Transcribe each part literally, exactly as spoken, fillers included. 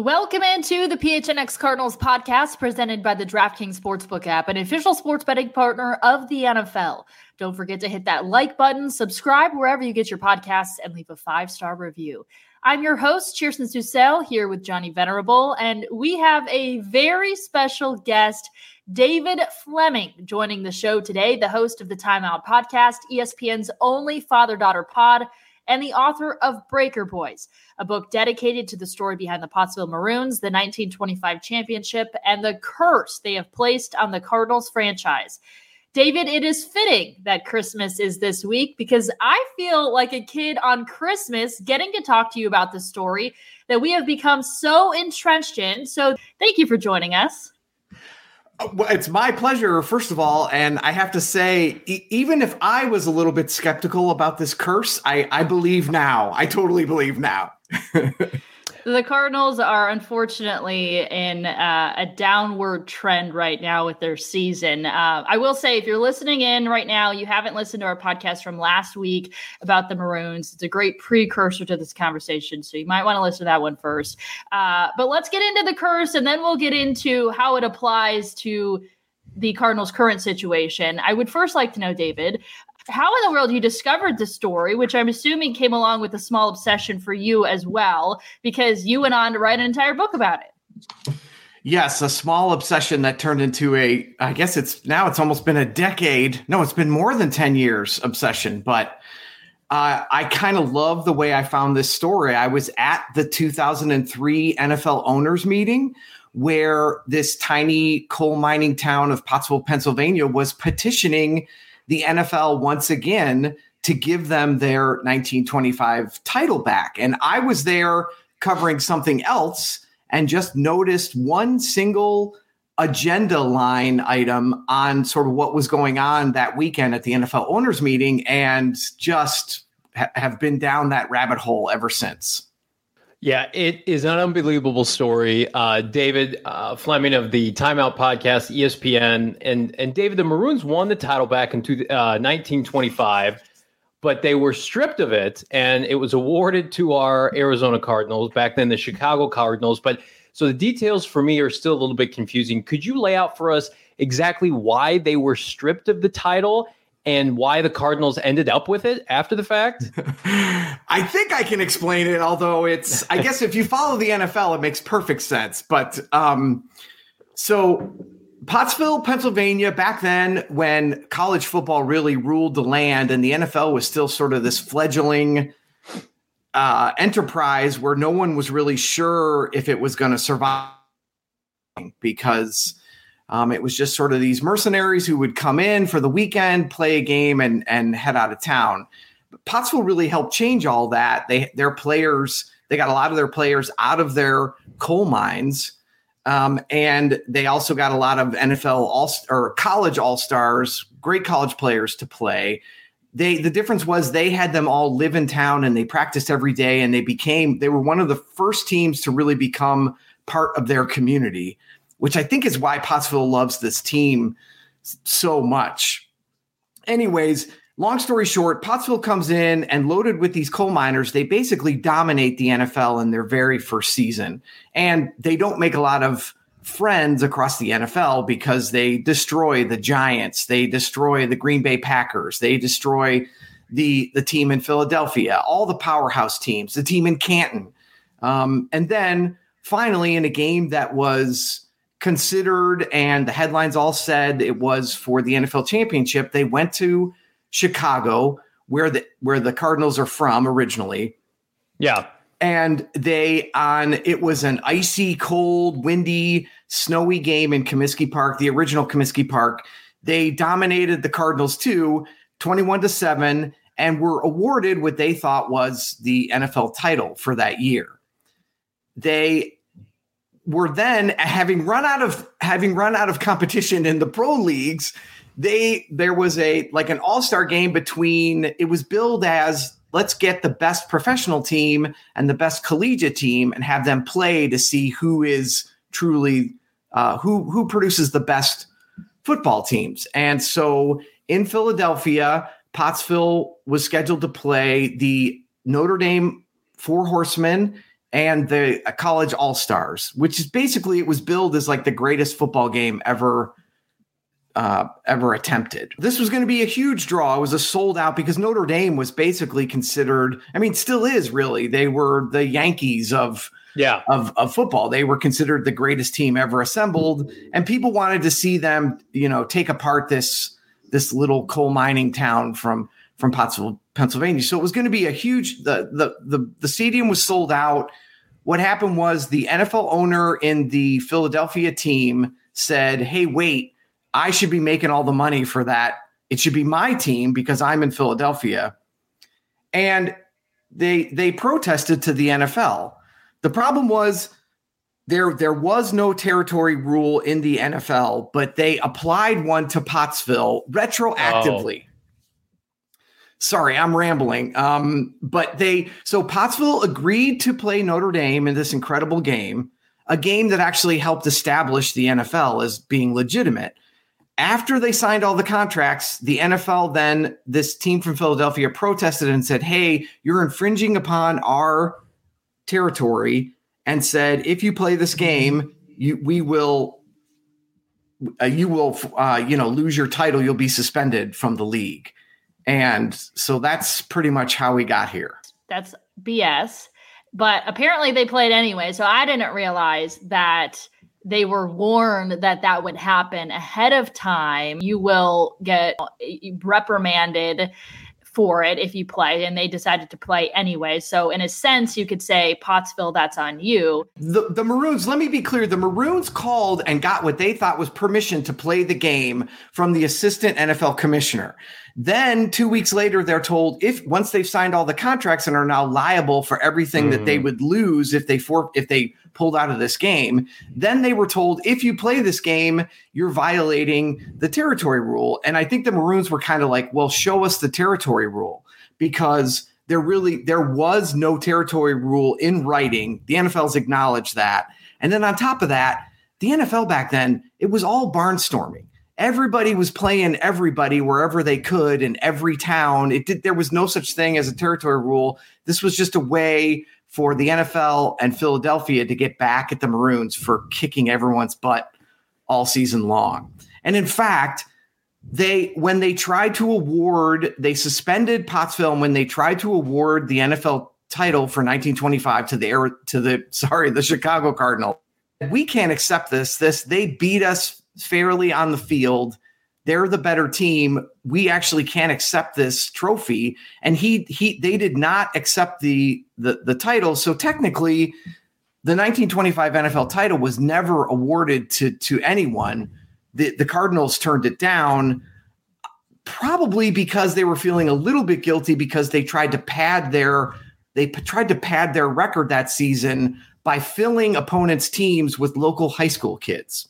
Welcome into the P H N X Cardinals podcast presented by the DraftKings Sportsbook app, an official sports betting partner of the N F L. Don't forget to hit that like button, subscribe wherever you get your podcasts, and leave a five-star review. I'm your host, Kirsten Susel, here with Johnny Venerable, and we have a very special guest, David Fleming, joining the show today, the host of the Timeout podcast, E S P N's only father-daughter pod, and the author of Breaker Boys, a book dedicated to the story behind the Pottsville Maroons, the nineteen twenty-five championship, and the curse they have placed on the Cardinals franchise. David, it is fitting that Christmas is this week because I feel like a kid on Christmas getting to talk to you about the story that we have become so entrenched in. So thank you for joining us. Well, it's my pleasure, first of all, and I have to say, e- even if I was a little bit skeptical about this curse, I, I believe now. I totally believe now. The Cardinals are unfortunately in uh, a downward trend right now with their season. Uh, I will say, if you're listening in right now, you haven't listened to our podcast from last week about the Maroons. It's a great precursor to this conversation, so you might want to listen to that one first. Uh, but let's get into the curse, and then we'll get into how it applies to the Cardinals' current situation. I would first like to know, David, how in the world you discovered the story, which I'm assuming came along with a small obsession for you as well, because you went on to write an entire book about it. Yes, a small obsession that turned into a, I guess it's now it's almost been a decade. No, it's been more than ten years obsession, but uh, I kind of love the way I found this story. I was at the two thousand three N F L owners meeting where this tiny coal mining town of Pottsville, Pennsylvania was petitioning the N F L once again to give them their nineteen twenty-five title back. And I was there covering something else and just noticed one single agenda line item on sort of what was going on that weekend at the N F L owners meeting and just ha- have been down that rabbit hole ever since. Yeah, it is an unbelievable story. Uh, David uh, Fleming of the Timeout podcast, E S P N, and and David, the Maroons won the title back in two, uh, nineteen twenty-five, but they were stripped of it, and it was awarded to our Arizona Cardinals, back then the Chicago Cardinals. But so the details for me are still a little bit confusing. Could you lay out for us exactly why they were stripped of the title and why the Cardinals ended up with it after the fact? I think I can explain it, although it's, I guess if you follow the N F L, it makes perfect sense. But um, so Pottsville, Pennsylvania, back then when college football really ruled the land and the N F L was still sort of this fledgling uh, enterprise where no one was really sure if it was going to survive because Um, it was just sort of these mercenaries who would come in for the weekend, play a game, and and head out of town. But Pottsville really helped change all that. They their players, they got a lot of their players out of their coal mines, um, and they also got a lot of N F L all or college all stars, great college players to play. They the difference was they had them all live in town and they practiced every day, and they became they were one of the first teams to really become part of their community, which I think is why Pottsville loves this team so much. Anyways, long story short, Pottsville comes in and loaded with these coal miners. They basically dominate the N F L in their very first season. And they don't make a lot of friends across the N F L because they destroy the Giants. They destroy the Green Bay Packers. They destroy the, the team in Philadelphia, all the powerhouse teams, the team in Canton. Um, and then finally, in a game that was considered and the headlines all said it was for the N F L championship, they went to Chicago, where the where the Cardinals are from originally. Yeah. And they on it was an icy, cold, windy, snowy game in Comiskey Park, the original Comiskey Park. They dominated the Cardinals too, twenty-one to seven, and were awarded what they thought was the N F L title for that year. They were then having run out of having run out of competition in the pro leagues. They there was a like an all-star game between it was billed as let's get the best professional team and the best collegiate team and have them play to see who is truly uh, who who produces the best football teams. And so in Philadelphia, Pottsville was scheduled to play the Notre Dame Four Horsemen and the College All-Stars, which is basically, it was billed as like the greatest football game ever uh, ever attempted. This was going to be a huge draw. It was a sold out because Notre Dame was basically considered, I mean, still is really, they were the Yankees of, yeah. of, of football. They were considered the greatest team ever assembled, and people wanted to see them, you know, take apart this, this little coal mining town from, from Pottsville, Pennsylvania. So it was going to be a huge, the, the, the, the stadium was sold out. What happened was the N F L owner in the Philadelphia team said, hey, wait, I should be making all the money for that. It should be my team because I'm in Philadelphia. And they, they protested to the N F L. The problem was there, there was no territory rule in the N F L, but they applied one to Pottsville retroactively. Oh. Sorry, I'm rambling. Um, but they, so Pottsville agreed to play Notre Dame in this incredible game, a game that actually helped establish the N F L as being legitimate. After they signed all the contracts, the N F L then, this team from Philadelphia protested and said, hey, you're infringing upon our territory, and said, if you play this game, you, we will, uh, you will, uh, you know, lose your title. You'll be suspended from the league. And so that's pretty much how we got here. That's B S. But apparently they played anyway. So I didn't realize that they were warned that that would happen ahead of time. You will get reprimanded for it if you play, and they decided to play anyway. So in a sense, you could say, Pottsville, that's on you. The, the Maroons, let me be clear, the Maroons called and got what they thought was permission to play the game from the assistant N F L commissioner. Then two weeks later, they're told, if once they've signed all the contracts and are now liable for everything mm. that they would lose if they for, if they pulled out of this game, then they were told, if you play this game, you're violating the territory rule. And I think the Maroons were kind of like, well, show us the territory rule, because there really, there was no territory rule in writing. The N F L's acknowledged that. And then on top of that, the N F L back then, it was all barnstorming. Everybody was playing everybody wherever they could in every town. It did, there was no such thing as a territory rule. This was just a way for the N F L and Philadelphia to get back at the Maroons for kicking everyone's butt all season long. And in fact, they, when they tried to award, they suspended Pottsville, and when they tried to award the N F L title for nineteen twenty-five to the, to the, sorry, the Chicago Cardinals, we can't accept this. This, they beat us fairly on the field. They're the better team. We actually can't accept this trophy. And he, he, they did not accept the, the, the title. So technically the nineteen twenty-five N F L title was never awarded to, to anyone. The, the Cardinals turned it down, probably because they were feeling a little bit guilty because they tried to pad their, they p- tried to pad their record that season by filling opponents' teams with local high school kids.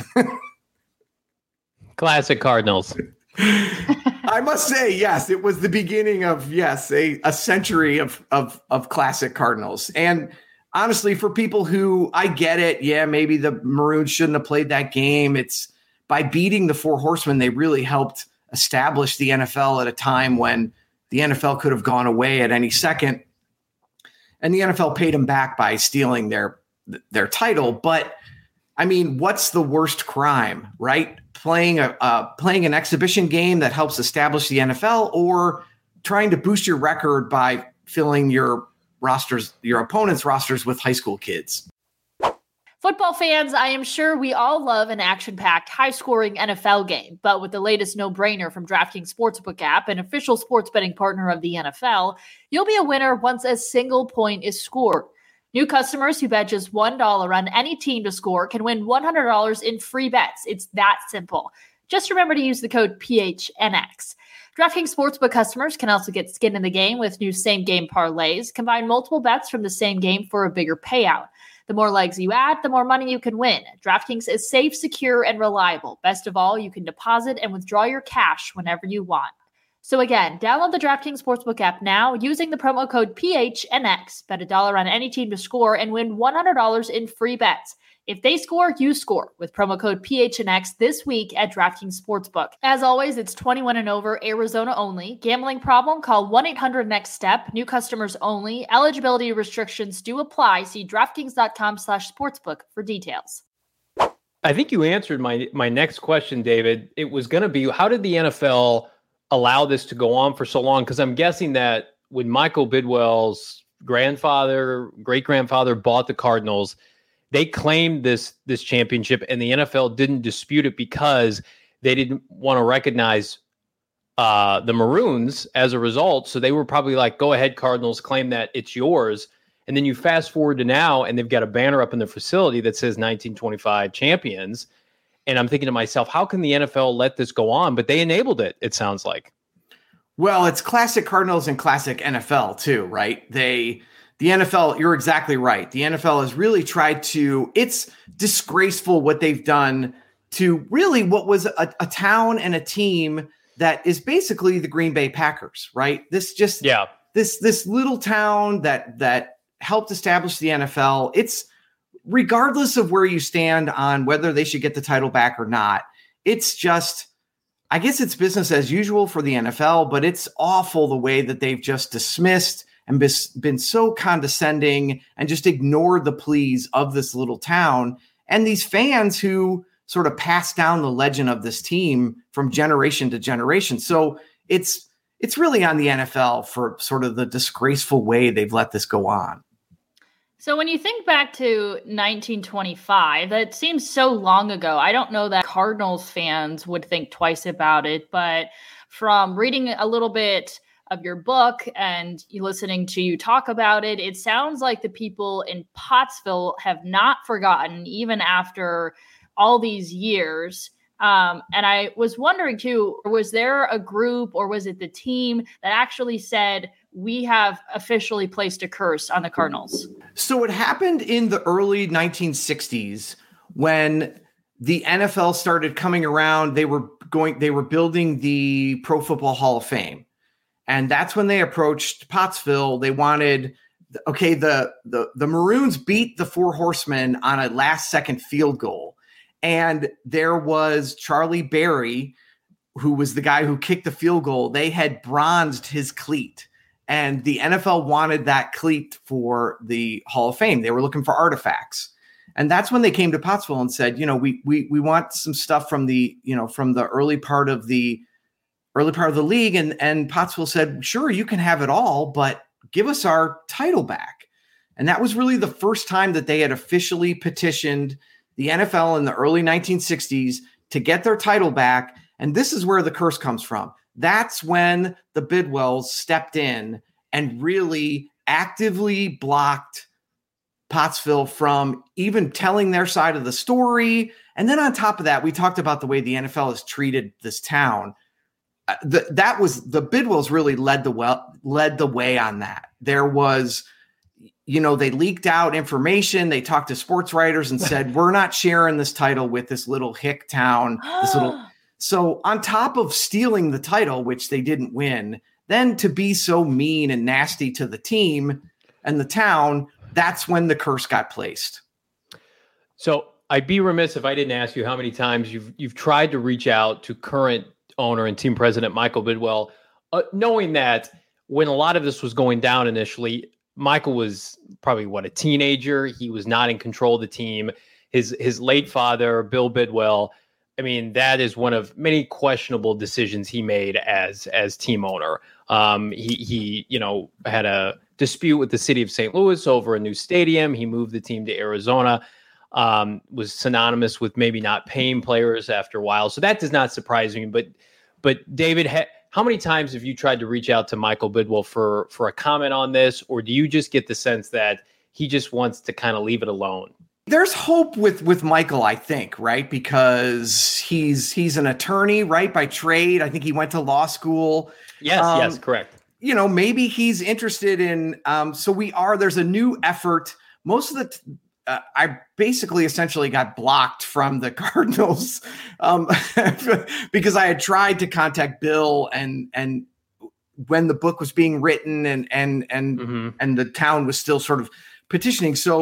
Classic Cardinals. I must say, yes, it was the beginning of, yes, a, a century of, of, of classic Cardinals. And honestly, for people who, I get it, yeah, maybe the Maroons shouldn't have played that game. It's by beating the Four Horsemen, they really helped establish the N F L at a time when the N F L could have gone away at any second. And the N F L paid them back by stealing their, their title. But I mean, what's the worst crime, right? Playing a uh, playing an exhibition game that helps establish the N F L, or trying to boost your record by filling your rosters, your opponents' rosters with high school kids. Football fans, I am sure we all love an action-packed, high-scoring N F L game, but with the latest no-brainer from DraftKings Sportsbook app, an official sports betting partner of the N F L, you'll be a winner once a single point is scored. New customers who bet just one dollar on any team to score can win one hundred dollars in free bets. It's that simple. Just remember to use the code P H N X. DraftKings Sportsbook customers can also get skin in the game with new same-game parlays. Combine multiple bets from the same game for a bigger payout. The more legs you add, the more money you can win. DraftKings is safe, secure, and reliable. Best of all, you can deposit and withdraw your cash whenever you want. So again, download the DraftKings Sportsbook app now using the promo code P H N X. Bet a dollar on any team to score and win one hundred dollars in free bets. If they score, you score with promo code P H N X this week at DraftKings Sportsbook. As always, it's twenty-one and over, Arizona only. Gambling problem? Call one eight hundred next step. New customers only. Eligibility restrictions do apply. See DraftKings.com slash sportsbook for details. I think you answered my my next question, David. It was going to be, how did the N F L allow this to go on for so long? Because I'm guessing that when Michael Bidwell's grandfather, great-grandfather bought the Cardinals, they claimed this this championship, and the N F L didn't dispute it because they didn't want to recognize uh, the Maroons as a result. So they were probably like, go ahead, Cardinals, claim that it's yours. And then you fast forward to now, and they've got a banner up in the facility that says nineteen twenty-five champions. And I'm thinking to myself, how can the N F L let this go on? But they enabled it, it sounds like. Well, it's classic Cardinals and classic N F L too, right? They... The N F L, you're exactly right. The N F L has really tried to, it's disgraceful what they've done to really what was a, a town and a team that is basically the Green Bay Packers, right? This just, yeah, this, this little town that, that helped establish the N F L. It's regardless of where you stand on whether they should get the title back or not. It's just, I guess it's business as usual for the N F L, but it's awful the way that they've just dismissed and been so condescending and just ignored the pleas of this little town and these fans who sort of passed down the legend of this team from generation to generation. So it's it's really on the N F L for sort of the disgraceful way they've let this go on. So when you think back to nineteen twenty-five, that seems so long ago. I don't know that Cardinals fans would think twice about it, but from reading a little bit of your book and you listening to you talk about it, it sounds like the people in Pottsville have not forgotten even after all these years. Um, and I was wondering too, was there a group or was it the team that actually said, we have officially placed a curse on the Cardinals? So it happened in the early nineteen sixties when the N F L started coming around. They were going, they were building the Pro Football Hall of Fame. And that's when they approached Pottsville. They wanted, okay, the, the, the Maroons beat the Four Horsemen on a last second field goal. And there was Charlie Berry, who was the guy who kicked the field goal. They had bronzed his cleat. And the N F L wanted that cleat for the Hall of Fame. They were looking for artifacts. And that's when they came to Pottsville and said, you know, we we we want some stuff from the, you know, from the early part of the early part of the league. And, and Pottsville said, sure, you can have it all, but give us our title back. And that was really the first time that they had officially petitioned the N F L in the early nineteen sixties to get their title back. And this is where the curse comes from. That's when the Bidwells stepped in and really actively blocked Pottsville from even telling their side of the story. And then on top of that, we talked about the way the N F L has treated this town. The, that was the Bidwells really led the well, led the way on that. There was, you know, they leaked out information. They talked to sports writers and said, we're not sharing this title with this little hick town. This little. So on top of stealing the title, which they didn't win, then to be so mean and nasty to the team and the town, that's when the curse got placed. So I'd be remiss if I didn't ask you how many times you've you've tried to reach out to current owner and team president Michael Bidwell, uh, knowing that when a lot of this was going down initially, Michael was probably what, a teenager. He was not in control of the team. His his late father, Bill Bidwell, I mean, that is one of many questionable decisions he made as as team owner. Um, he he, you know, had a dispute with the city of Saint Louis over a new stadium. He moved the team to Arizona. Um, was synonymous with maybe not paying players after a while. So that does not surprise me. But, but David, ha- how many times have you tried to reach out to Michael Bidwell for, for a comment on this? Or do you just get the sense that he just wants to kind of leave it alone? There's hope with, with Michael, I think, right? Because he's, he's an attorney, right? By trade. I think he went to law school. Yes. Um, yes. Correct. You know, maybe he's interested in, um, so we are, there's a new effort. Most of the, t- Uh, I basically essentially got blocked from the Cardinals um, because I had tried to contact Bill and and when the book was being written and and and mm-hmm. and the town was still sort of petitioning. So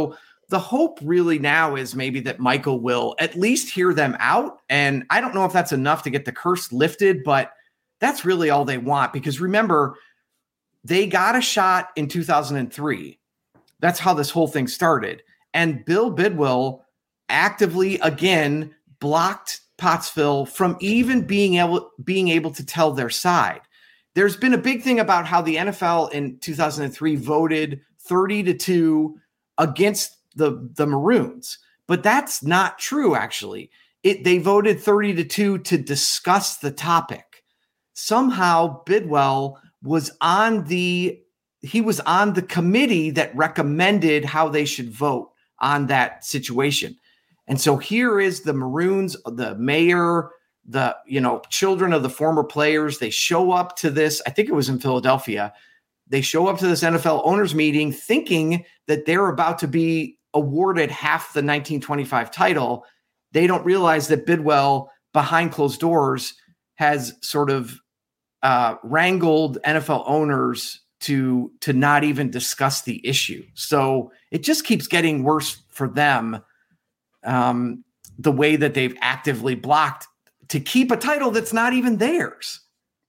the hope really now is maybe that Michael will at least hear them out. And I don't know if that's enough to get the curse lifted, but that's really all they want. Because remember, they got a shot in two thousand three. That's how this whole thing started. And Bill Bidwill actively, again, blocked Pottsville from even being able, being able to tell their side. There's been a big thing about how the N F L in two thousand three voted thirty to two against the, the Maroons. But that's not true, actually. It, they voted thirty to two to discuss the topic. Somehow Bidwill was on the he was on the committee that recommended how they should vote on that situation. And so here is the Maroons, the mayor, the, you know, children of the former players. They show up to this, I think it was in Philadelphia. They show up to this N F L owners meeting thinking that they're about to be awarded half the nineteen twenty-five title. They don't realize that Bidwill, behind closed doors, has sort of uh, wrangled N F L owners to, to not even discuss the issue. So it just keeps getting worse for them, um, the way that they've actively blocked to keep a title that's not even theirs.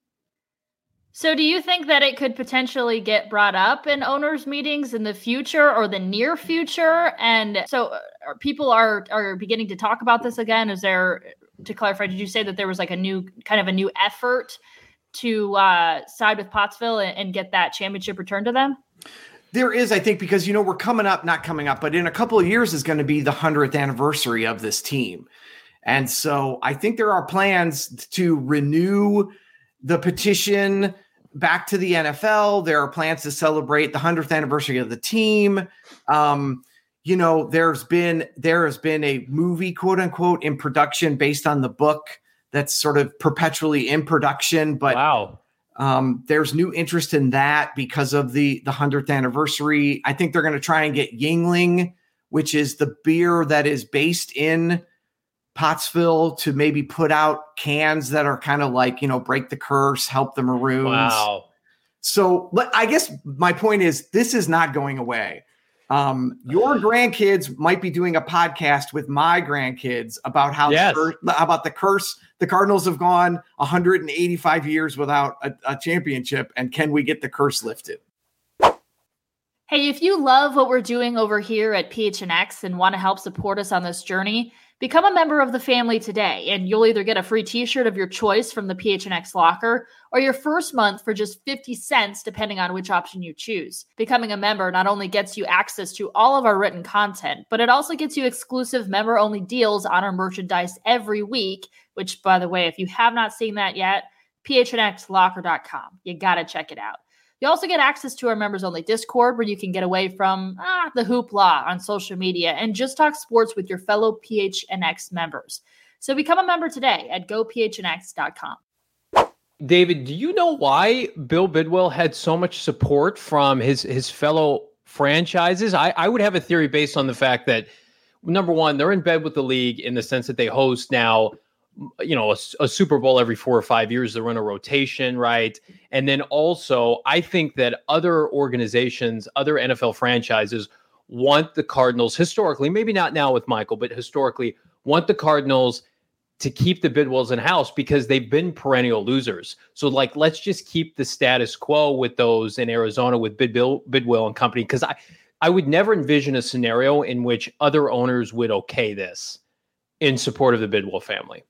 So do you think that it could potentially get brought up in owners' meetings in the future or the near future? And so are people are are beginning to talk about this again? Is there, to clarify, did you say that there was like a new kind of a new effort to uh, side with Pottsville and, and get that championship returned to them? There is, I think, because, you know, we're coming up, not coming up, but in a couple of years is going to be the hundredth anniversary of this team. And so I think there are plans to renew the petition back to the N F L. There are plans to celebrate the hundredth anniversary of the team. Um, you know, there's been, there has been a movie, quote unquote, in production based on the book that's sort of perpetually in production. But wow. Um, there's new interest in that because of the, the hundredth anniversary. I think they're going to try and get Yuengling, which is the beer that is based in Pottsville, to maybe put out cans that are kind of like, you know, break the curse, help the Maroons. Wow. So I guess my point is this is not going away. Um, your grandkids might be doing a podcast with my grandkids about how yes. the, about the curse. The Cardinals have gone one hundred eighty-five years without a, a championship, and can we get the curse lifted? Hey, if you love what we're doing over here at P H N X and want to help support us on this journey, become a member of the family today, and you'll either get a free t-shirt of your choice from the P H N X locker or your first month for just fifty cents, depending on which option you choose. Becoming a member not only gets you access to all of our written content, but it also gets you exclusive member-only deals on our merchandise every week, which, by the way, if you have not seen that yet, P H N X locker dot com. You got to check it out. You also get access to our members-only Discord, where you can get away from ah, the hoopla on social media and just talk sports with your fellow P H N X members. So become a member today at go P H N X dot com. David, do you know why Bill Bidwill had so much support from his, his fellow franchises? I, I would have a theory based on the fact that, number one, they're in bed with the league in the sense that they host now, you know, a, a Super Bowl every four or five years. They're in a rotation, right? And then also, I think that other organizations, other N F L franchises want the Cardinals historically, maybe not now with Michael, but historically want the Cardinals to keep the Bidwills in house because they've been perennial losers. So like, let's just keep the status quo with those in Arizona with Bidwill, Bidwill and company. Cause I, I would never envision a scenario in which other owners would okay this in support of the Bidwill family.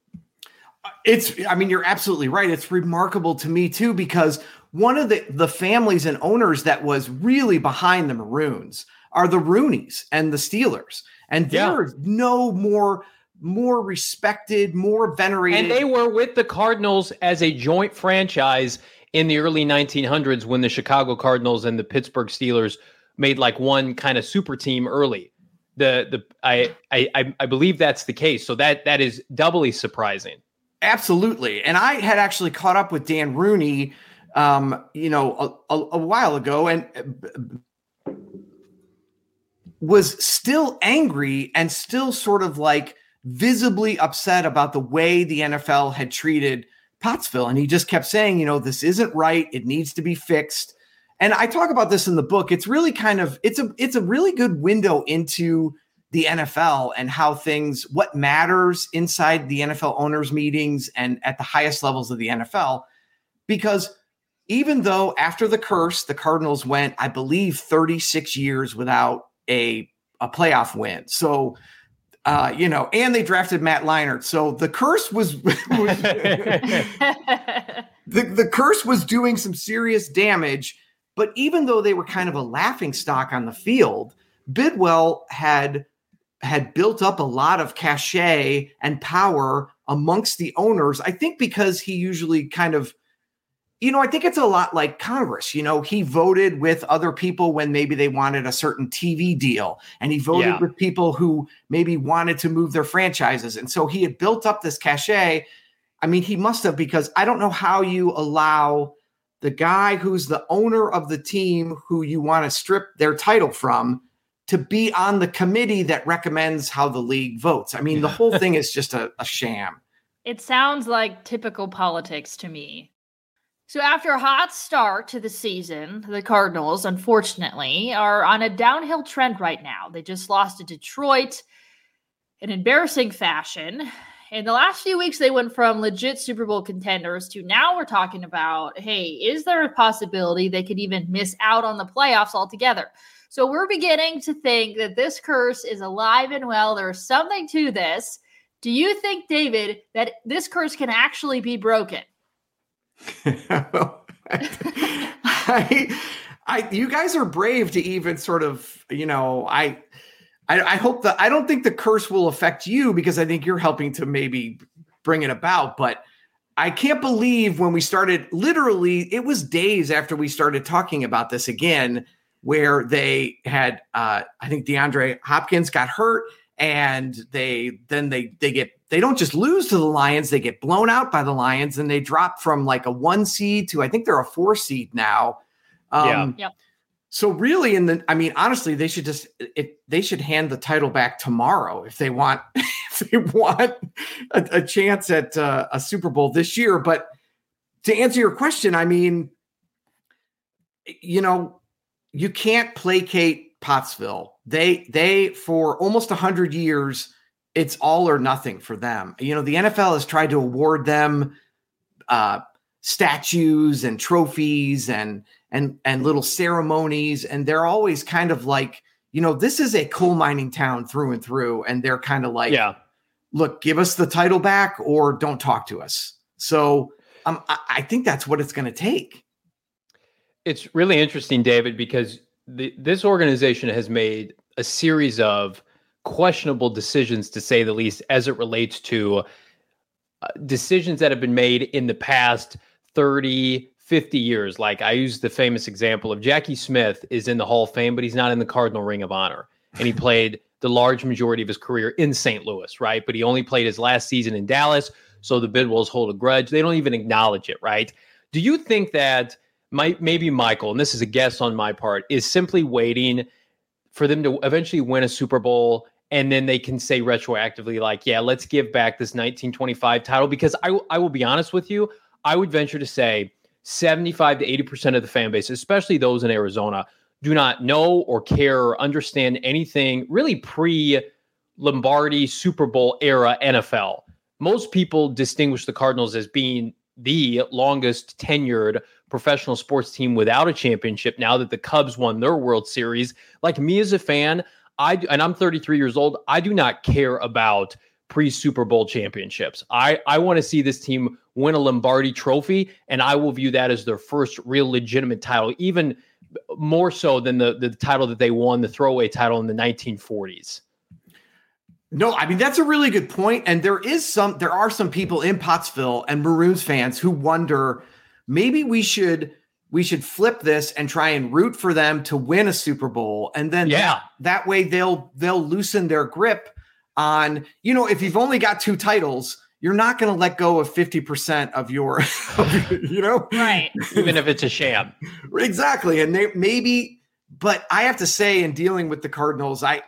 It's, I mean, you're absolutely right. It's remarkable to me too, because one of the, the families and owners that was really behind the Maroons are the Rooneys and the Steelers. And they're yeah. no more, more respected, more venerated. And they were with the Cardinals as a joint franchise in the early nineteen hundreds when the Chicago Cardinals and the Pittsburgh Steelers made like one kind of super team early. The the I I I believe that's the case. So that that is doubly surprising. Absolutely. And I had actually caught up with Dan Rooney, um, you know, a, a, a while ago, and was still angry and still sort of like visibly upset about the way the N F L had treated Pottsville. And he just kept saying, you know, this isn't right. It needs to be fixed. And I talk about this in the book. It's really kind of, it's a, it's a really good window into the N F L and how things, what matters inside the N F L owners meetings and at the highest levels of the N F L. Because even though after the curse, the Cardinals went, I believe, thirty-six years without a, a playoff win. So, uh, you know, and they drafted Matt Leinart. So the curse was, was the, the curse was doing some serious damage. But even though they were kind of a laughing stock on the field, Bidwell had had built up a lot of cachet and power amongst the owners. I think because he usually kind of, you know, I think it's a lot like Congress. You know, he voted with other people when maybe they wanted a certain T V deal, and he voted Yeah. with people who maybe wanted to move their franchises. And so he had built up this cachet. I mean, he must have, because I don't know how you allow the guy who's the owner of the team who you want to strip their title from to be on the committee that recommends how the league votes. I mean, the whole thing is just a, a sham. It sounds like typical politics to me. So after a hot start to the season, the Cardinals, unfortunately, are on a downhill trend right now. They just lost to Detroit in embarrassing fashion. In the last few weeks, they went from legit Super Bowl contenders to now we're talking about, hey, is there a possibility they could even miss out on the playoffs altogether? So we're beginning to think that this curse is alive and well. There's something to this. Do you think, David, that this curse can actually be broken? I, I, you guys are brave to even sort of, you know, I, I, I hope that I don't think the curse will affect you because I think you're helping to maybe bring it about. But I can't believe when we started, literally, it was days after we started talking about this again, where they had, uh, I think DeAndre Hopkins got hurt, and they then they they get they don't just lose to the Lions, they get blown out by the Lions, and they drop from like a one seed to I think they're a four seed now. Um, Yeah. Yep. So really, in the I mean, honestly, they should just it they should hand the title back tomorrow if they want if they want a, a chance at uh, a Super Bowl this year. But to answer your question, I mean, you know. You can't placate Pottsville. They, they, for almost a hundred years, it's all or nothing for them. You know, the N F L has tried to award them uh, statues and trophies and, and, and little ceremonies. And they're always kind of like, you know, this is a coal mining town through and through. And they're kind of like, Yeah. look, give us the title back or don't talk to us. So um, I, I think that's what it's going to take. It's really interesting, David, because the, this organization has made a series of questionable decisions, to say the least, as it relates to uh, decisions that have been made in the past thirty, fifty years. Like I use the famous example of Jackie Smith is in the Hall of Fame, but he's not in the Cardinal Ring of Honor. And he played the large majority of his career in Saint Louis, right? But he only played his last season in Dallas, so the Bidwells hold a grudge. They don't even acknowledge it, right? Do you think that My, maybe Michael, and this is a guess on my part, is simply waiting for them to eventually win a Super Bowl, and then they can say retroactively, like, yeah, let's give back this nineteen twenty-five title? Because I, I will be honest with you, I would venture to say seventy-five to eighty percent of the fan base, especially those in Arizona, do not know or care or understand anything really pre-Lombardi Super Bowl era N F L. Most people distinguish the Cardinals as being the longest tenured professional sports team without a championship now that the Cubs won their World Series. Like me as a fan, I and I'm thirty-three years old, I do not care about pre-Super Bowl championships. I, I want to see this team win a Lombardi trophy, and I will view that as their first real legitimate title, even more so than the, the title that they won, the throwaway title in the nineteen forties. No, I mean, that's a really good point. And there is some, there are some people in Pottsville and Maroons fans who wonder, maybe we should, we should flip this and try and root for them to win a Super Bowl. And then yeah. that, that way they'll, they'll loosen their grip on, you know, if you've only got two titles, you're not going to let go of fifty percent of your, you know, Right. Even if it's a sham. Exactly. And they maybe, but I have to say, in dealing with the Cardinals, I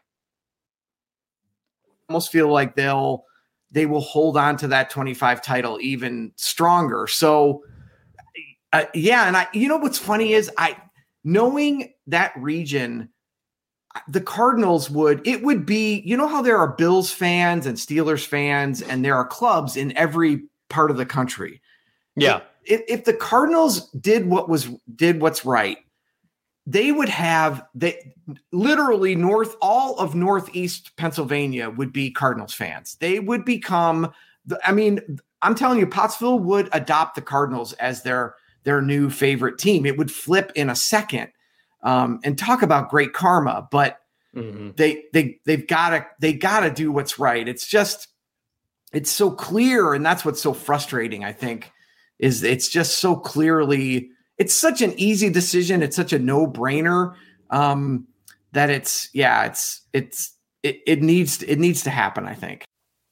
almost feel like they'll, they will hold on to that twenty-five title even stronger. So uh, yeah. And I, you know, what's funny is I, knowing that region, the Cardinals would, it would be, you know how there are Bills fans and Steelers fans and there are clubs in every part of the country. Yeah. If, if the Cardinals did what was, did what's right, they would have, they literally north, all of Northeast Pennsylvania would be Cardinals fans. They would become, the, I mean, I'm telling you, Pottsville would adopt the Cardinals as their, their new favorite team. It would flip in a second. Um, and talk about great karma, but mm-hmm. they they they've got to they got to do what's right. It's just it's so clear, and that's what's so frustrating. I think is it's just so clearly it's such an easy decision. It's such a no brainer um, that it's yeah it's it's it, it needs it needs to happen. I think.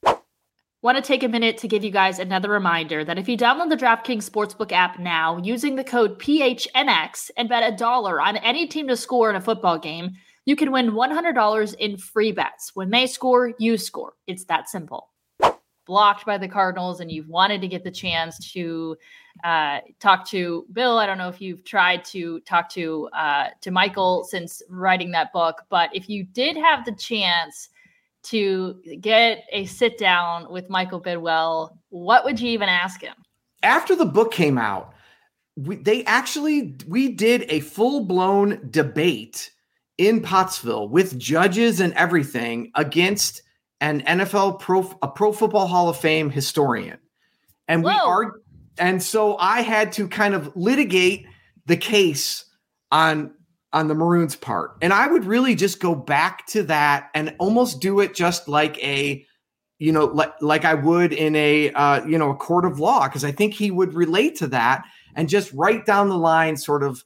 Want to take a minute to give you guys another reminder that if you download the DraftKings Sportsbook app now using the code P H N X and bet a dollar on any team to score in a football game, you can win one hundred dollars in free bets. When they score, you score. It's that simple. Blocked by the Cardinals and you've wanted to get the chance to uh, talk to Bill. I don't know if you've tried to talk to uh, to Michael since writing that book, but if you did have the chance to get a sit down with Michael Bidwell, what would you even ask him? After the book came out, we, they actually, we did a full blown debate in Pottsville with judges and everything against an N F L pro, a Pro Football Hall of Fame historian. And we are, and so I had to kind of litigate the case on on the Maroons part. And I would really just go back to that and almost do it just like a, you know, like, like I would in a, uh, you know, a court of law. Cause I think he would relate to that and just right down the line, sort of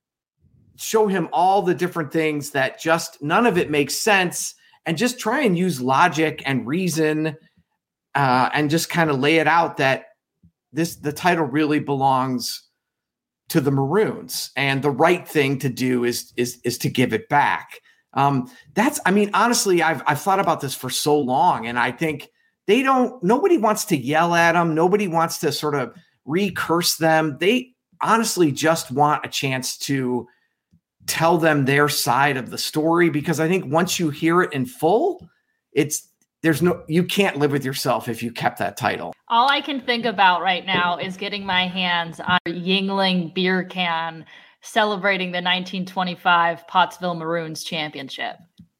show him all the different things that just none of it makes sense and just try and use logic and reason uh, and just kind of lay it out that this, the title really belongs to the Maroons, and the right thing to do is is is to give it back. Um, that's, I mean, honestly, I've I've thought about this for so long, and I think they don't. Nobody wants to yell at them. Nobody wants to sort of recurse them. They honestly just want a chance to tell them their side of the story, because I think once you hear it in full, it's there's no you can't live with yourself if you kept that title. All I can think about right now is getting my hands on a Yuengling beer can celebrating the nineteen twenty-five Pottsville Maroons championship.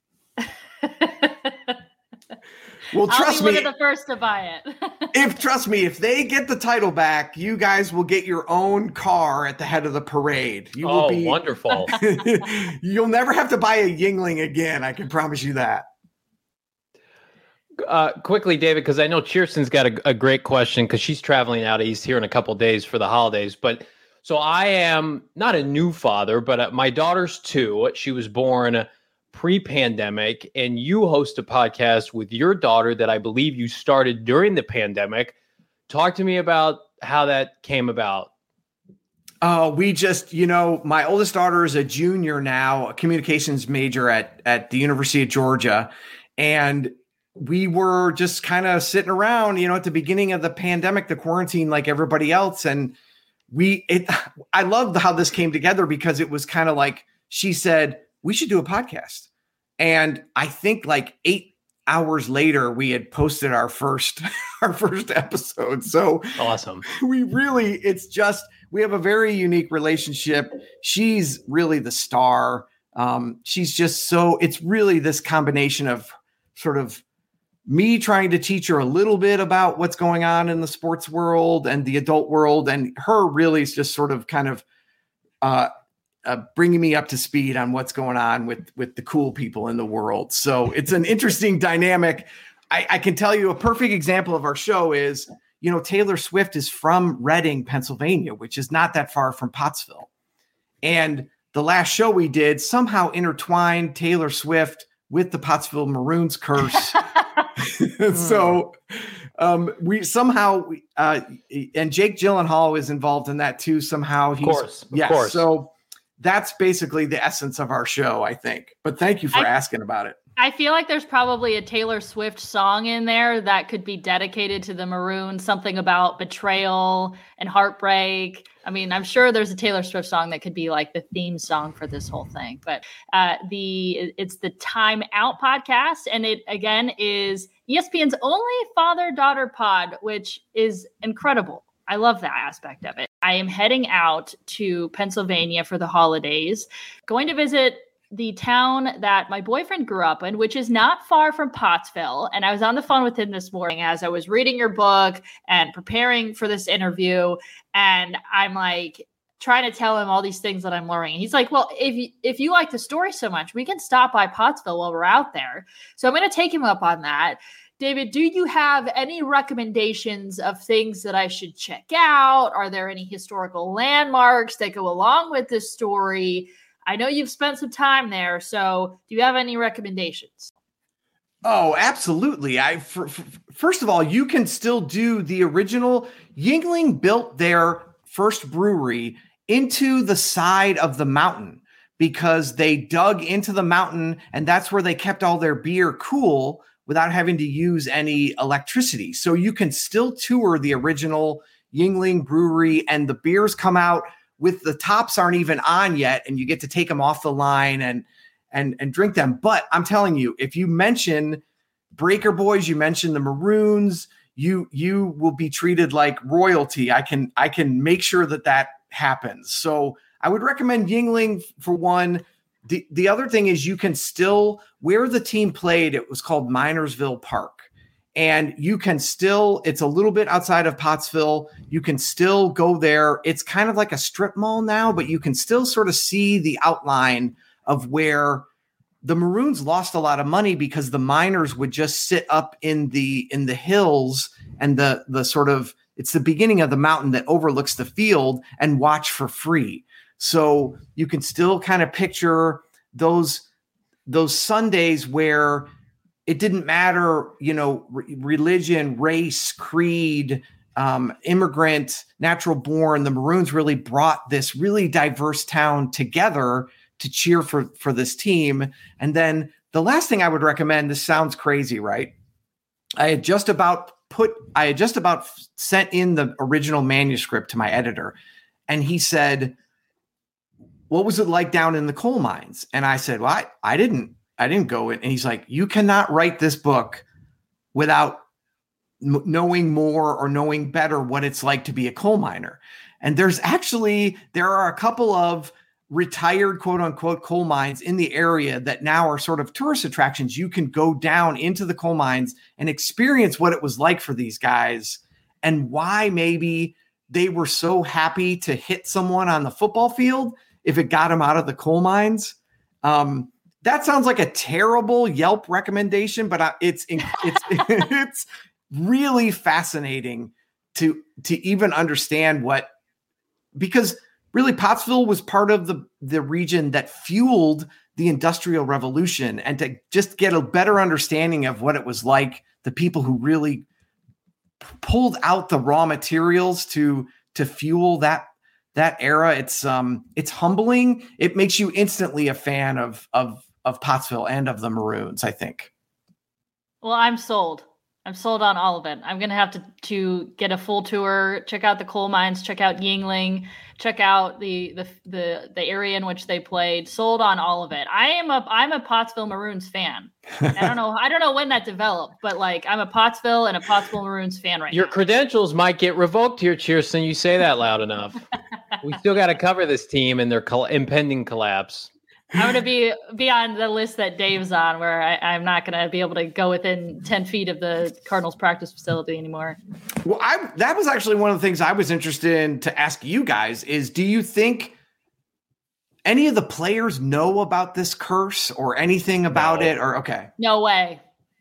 Well, trust I'll be me, one of the first to buy it. if trust me, if they get the title back, you guys will get your own car at the head of the parade. You will oh, be wonderful! You'll never have to buy a Yuengling again. I can promise you that. Uh, quickly, David, because I know Kirsten's got a, a great question because she's traveling out east here in a couple of days for the holidays. But so I am not a new father, but uh, my daughter's two. She was born pre-pandemic, and you host a podcast with your daughter that I believe you started during the pandemic. Talk to me about how that came about. Oh, uh, we just, you know, my oldest daughter is a junior now, a communications major at at the University of Georgia, and we were just kind of sitting around, you know, at the beginning of the pandemic, the quarantine, like everybody else. And we, it, I loved how this came together because it was kind of like, she said, we should do a podcast. And I think like eight hours later, we had posted our first, our first episode. So awesome. We really, it's just, we have a very unique relationship. She's really the star. Um, she's just so, it's really this combination of sort of me trying to teach her a little bit about what's going on in the sports world and the adult world, and her really is just sort of kind of uh, uh, bringing me up to speed on what's going on with, with the cool people in the world. So it's an interesting dynamic. I, I can tell you a perfect example of our show is, you know, Taylor Swift is from Reading, Pennsylvania, which is not that far from Pottsville. And the last show we did somehow intertwined Taylor Swift with the Pottsville Maroons curse. So um, we somehow, uh, and Jake Gyllenhaal is involved in that too. Somehow, he's, of course, of yes, course. So that's basically the essence of our show, I think. But thank you for I, asking about it. I feel like there's probably a Taylor Swift song in there that could be dedicated to the Maroons, something about betrayal and heartbreak. I mean, I'm sure there's a Taylor Swift song that could be like the theme song for this whole thing. But uh, the it's the Time Out podcast, and it again is E S P N's only father-daughter pod, which is incredible. I love that aspect of it. I am heading out to Pennsylvania for the holidays, going to visit the town that my boyfriend grew up in, which is not far from Pottsville. And I was on the phone with him this morning as I was reading your book and preparing for this interview. And I'm like trying to tell him all these things that I'm learning. He's like, well, if you, if you like the story so much, we can stop by Pottsville while we're out there. So I'm going to take him up on that. David, do you have any recommendations of things that I should check out? Are there any historical landmarks that go along with this story? I know you've spent some time there, so do you have any recommendations? Oh, absolutely. I for, for, first of all, you can still do the original. Yuengling built their first brewery into the side of the mountain because they dug into the mountain, and that's where they kept all their beer cool without having to use any electricity. So you can still tour the original Yuengling brewery, and the beers come out with the tops aren't even on yet, and you get to take them off the line and and and drink them. But I'm telling you, if you mention Breaker Boys, you mention the Maroons, you you will be treated like royalty. I can I can make sure that that happens. So I would recommend Yuengling for one. The the other thing is you can still, where the team played, it was called Minersville Park. And you can still, it's a little bit outside of Pottsville. You can still go there. It's kind of like a strip mall now, but you can still sort of see the outline of where the Maroons lost a lot of money because the miners would just sit up in the in the hills and the the sort of, it's the beginning of the mountain that overlooks the field and watch for free. So you can still kind of picture those those Sundays where it didn't matter, you know, re- religion, race, creed, um, immigrant, natural born. The Maroons really brought this really diverse town together to cheer for, for this team. And then the last thing I would recommend, this sounds crazy, right? I had just about put, I had just about sent in the original manuscript to my editor, and he said, what was it like down in the coal mines? And I said, well, I, I didn't, I didn't go in. And he's like, you cannot write this book without m- knowing more or knowing better what it's like to be a coal miner. And there's actually, there are a couple of retired quote unquote coal mines in the area that now are sort of tourist attractions. You can go down into the coal mines and experience what it was like for these guys and why maybe they were so happy to hit someone on the football field if it got them out of the coal mines. Um, That sounds like a terrible Yelp recommendation, but it's it's it's really fascinating to to even understand what, because really Pottsville was part of the the region that fueled the Industrial Revolution, and to just get a better understanding of what it was like, the people who really pulled out the raw materials to to fuel that that era. It's um it's humbling. It makes you instantly a fan of of of Pottsville and of the Maroons, I think. Well, I'm sold. I'm sold on all of it. I'm going to have to, to get a full tour, check out the coal mines, check out Yuengling, check out the, the, the, the area in which they played. Sold on all of it. I am a, I'm a Pottsville Maroons fan. I don't know. I don't know when that developed, but like I'm a Pottsville and a Pottsville Maroons fan right Your now. credentials might get revoked here, Cheerson. You say that loud enough. We still got to cover this team and their col- impending collapse. I'm going to be be on the list that Dave's on, where I, I'm not going to be able to go within ten feet of the Cardinals practice facility anymore. Well, I that was actually one of the things I was interested in to ask you guys is, do you think any of the players know about this curse or anything about No. it? Or okay. No way.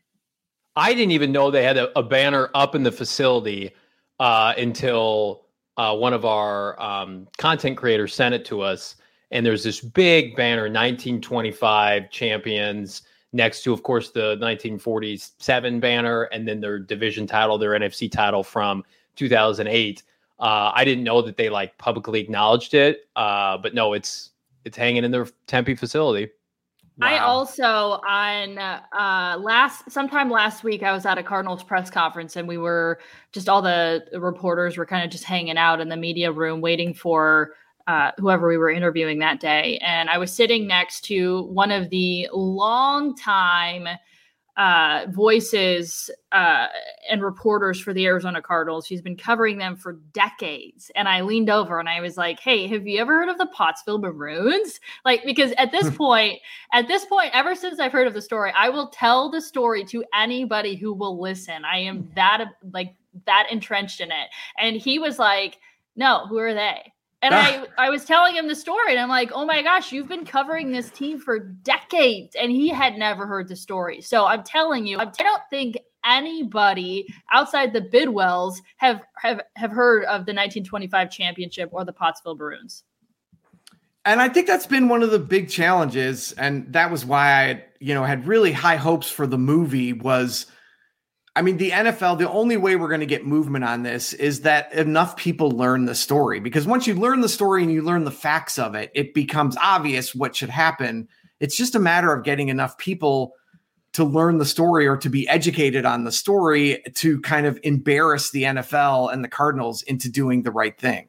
I didn't even know they had a, a banner up in the facility uh, until uh, one of our um, content creators sent it to us. And there's this big banner, nineteen twenty-five champions, next to, of course, the nineteen forty-seven banner, and then their division title, their N F C title from two thousand eight. Uh, I didn't know that they like publicly acknowledged it, uh, but no, it's it's hanging in their Tempe facility. Wow. I also on uh, last sometime last week I was at a Cardinals press conference and we were just all the reporters were kind of just hanging out in the media room waiting for uh, whoever we were interviewing that day. And I was sitting next to one of the longtime uh, voices uh, and reporters for the Arizona Cardinals. She's been covering them for decades. And I leaned over and I was like, hey, have you ever heard of the Pottsville Maroons? Like, because at this point, at this point, ever since I've heard of the story, I will tell the story to anybody who will listen. I am that like that entrenched in it. And he was like, no, who are they? And I, I was telling him the story and I'm like, oh my gosh, you've been covering this team for decades. And he had never heard the story. So I'm telling you, I don't think anybody outside the Bidwells have, have, have heard of the nineteen twenty-five championship or the Pottsville Maroons. And I think that's been one of the big challenges. And that was why I, you know, had really high hopes for the movie was, I mean, the N F L, the only way we're going to get movement on this is that enough people learn the story. Because once you learn the story and you learn the facts of it, it becomes obvious what should happen. It's just a matter of getting enough people to learn the story or to be educated on the story to kind of embarrass the N F L and the Cardinals into doing the right thing.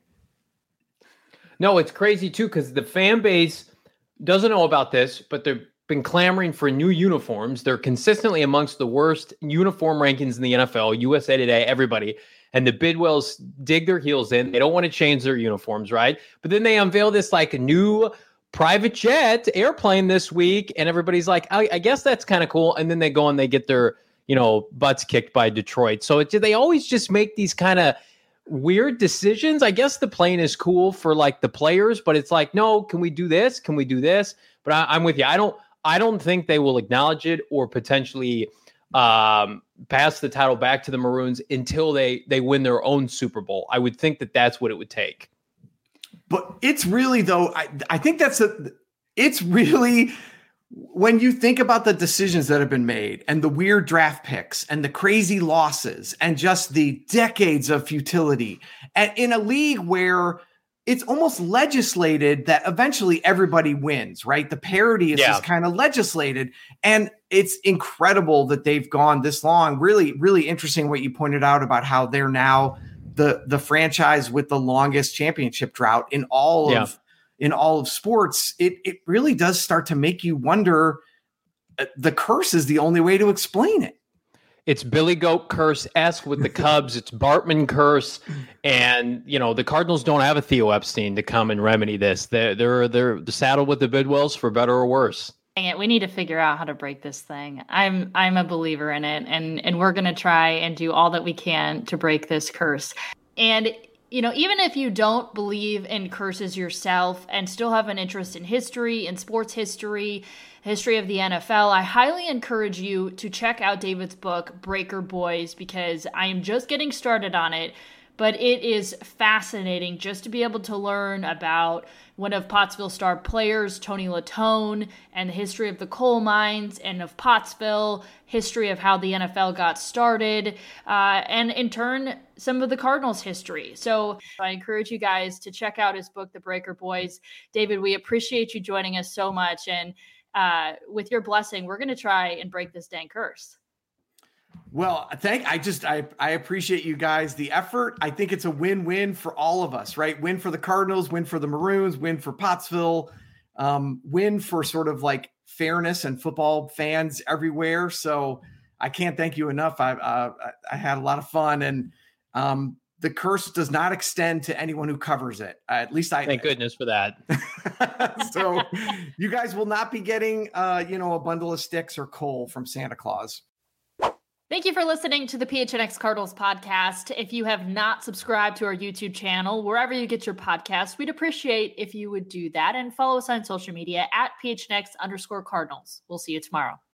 No, it's crazy too, because the fan base doesn't know about this, but they're been clamoring for new uniforms. They're consistently amongst the worst uniform rankings in the N F L, U S A Today, everybody. And the Bidwells dig their heels in. They don't want to change their uniforms, right? But then they unveil this like new private jet airplane this week. And everybody's like, I, I guess that's kind of cool. And then they go and they get their, you know, butts kicked by Detroit. So it, they always just make these kind of weird decisions. I guess the plane is cool for like the players, but it's like, no, can we do this? Can we do this? But I, I'm with you. I don't, I don't think they will acknowledge it or potentially um, pass the title back to the Maroons until they they win their own Super Bowl. I would think that that's what it would take. But it's really, though, I, I think that's a, it's really, when you think about the decisions that have been made and the weird draft picks and the crazy losses and just the decades of futility and in a league where it's almost legislated that eventually everybody wins, right? The parity is yeah. just kind of legislated. And it's incredible that they've gone this long. Really, really interesting what you pointed out about how they're now the, the franchise with the longest championship drought in all yeah. of in all of sports. It it really does start to make you wonder. Uh, the curse is the only way to explain it. It's Billy Goat curse-esque with the Cubs. It's Bartman curse. And, you know, the Cardinals don't have a Theo Epstein to come and remedy this. They're, they're, they're saddled with the Bidwells for better or worse. Dang it, we need to figure out how to break this thing. I'm I'm a believer in it, and, and we're going to try and do all that we can to break this curse. And, you know, even if you don't believe in curses yourself and still have an interest in history, in sports history, history of the N F L, I highly encourage you to check out David's book, Breaker Boys, because I am just getting started on it, but it is fascinating just to be able to learn about one of Pottsville star players, Tony Latone, and the history of the coal mines and of Pottsville, history of how the N F L got started, uh, and in turn, some of the Cardinals' history. So I encourage you guys to check out his book, The Breaker Boys. David, we appreciate you joining us so much, and Uh, with your blessing, we're going to try and break this dang curse. Well, thank, I just, I, I appreciate you guys, the effort. I think it's a win-win for all of us, right? Win for the Cardinals, win for the Maroons, win for Pottsville, um, win for sort of like fairness and football fans everywhere. So I can't thank you enough. I, uh, I had a lot of fun, and um, the curse does not extend to anyone who covers it. Uh, at least I thank goodness for that. So you guys will not be getting, uh, you know, a bundle of sticks or coal from Santa Claus. Thank you for listening to the P H N X Cardinals podcast. If you have not subscribed to our YouTube channel, wherever you get your podcasts, we'd appreciate if you would do that, and follow us on social media at P H N X underscore Cardinals. We'll see you tomorrow.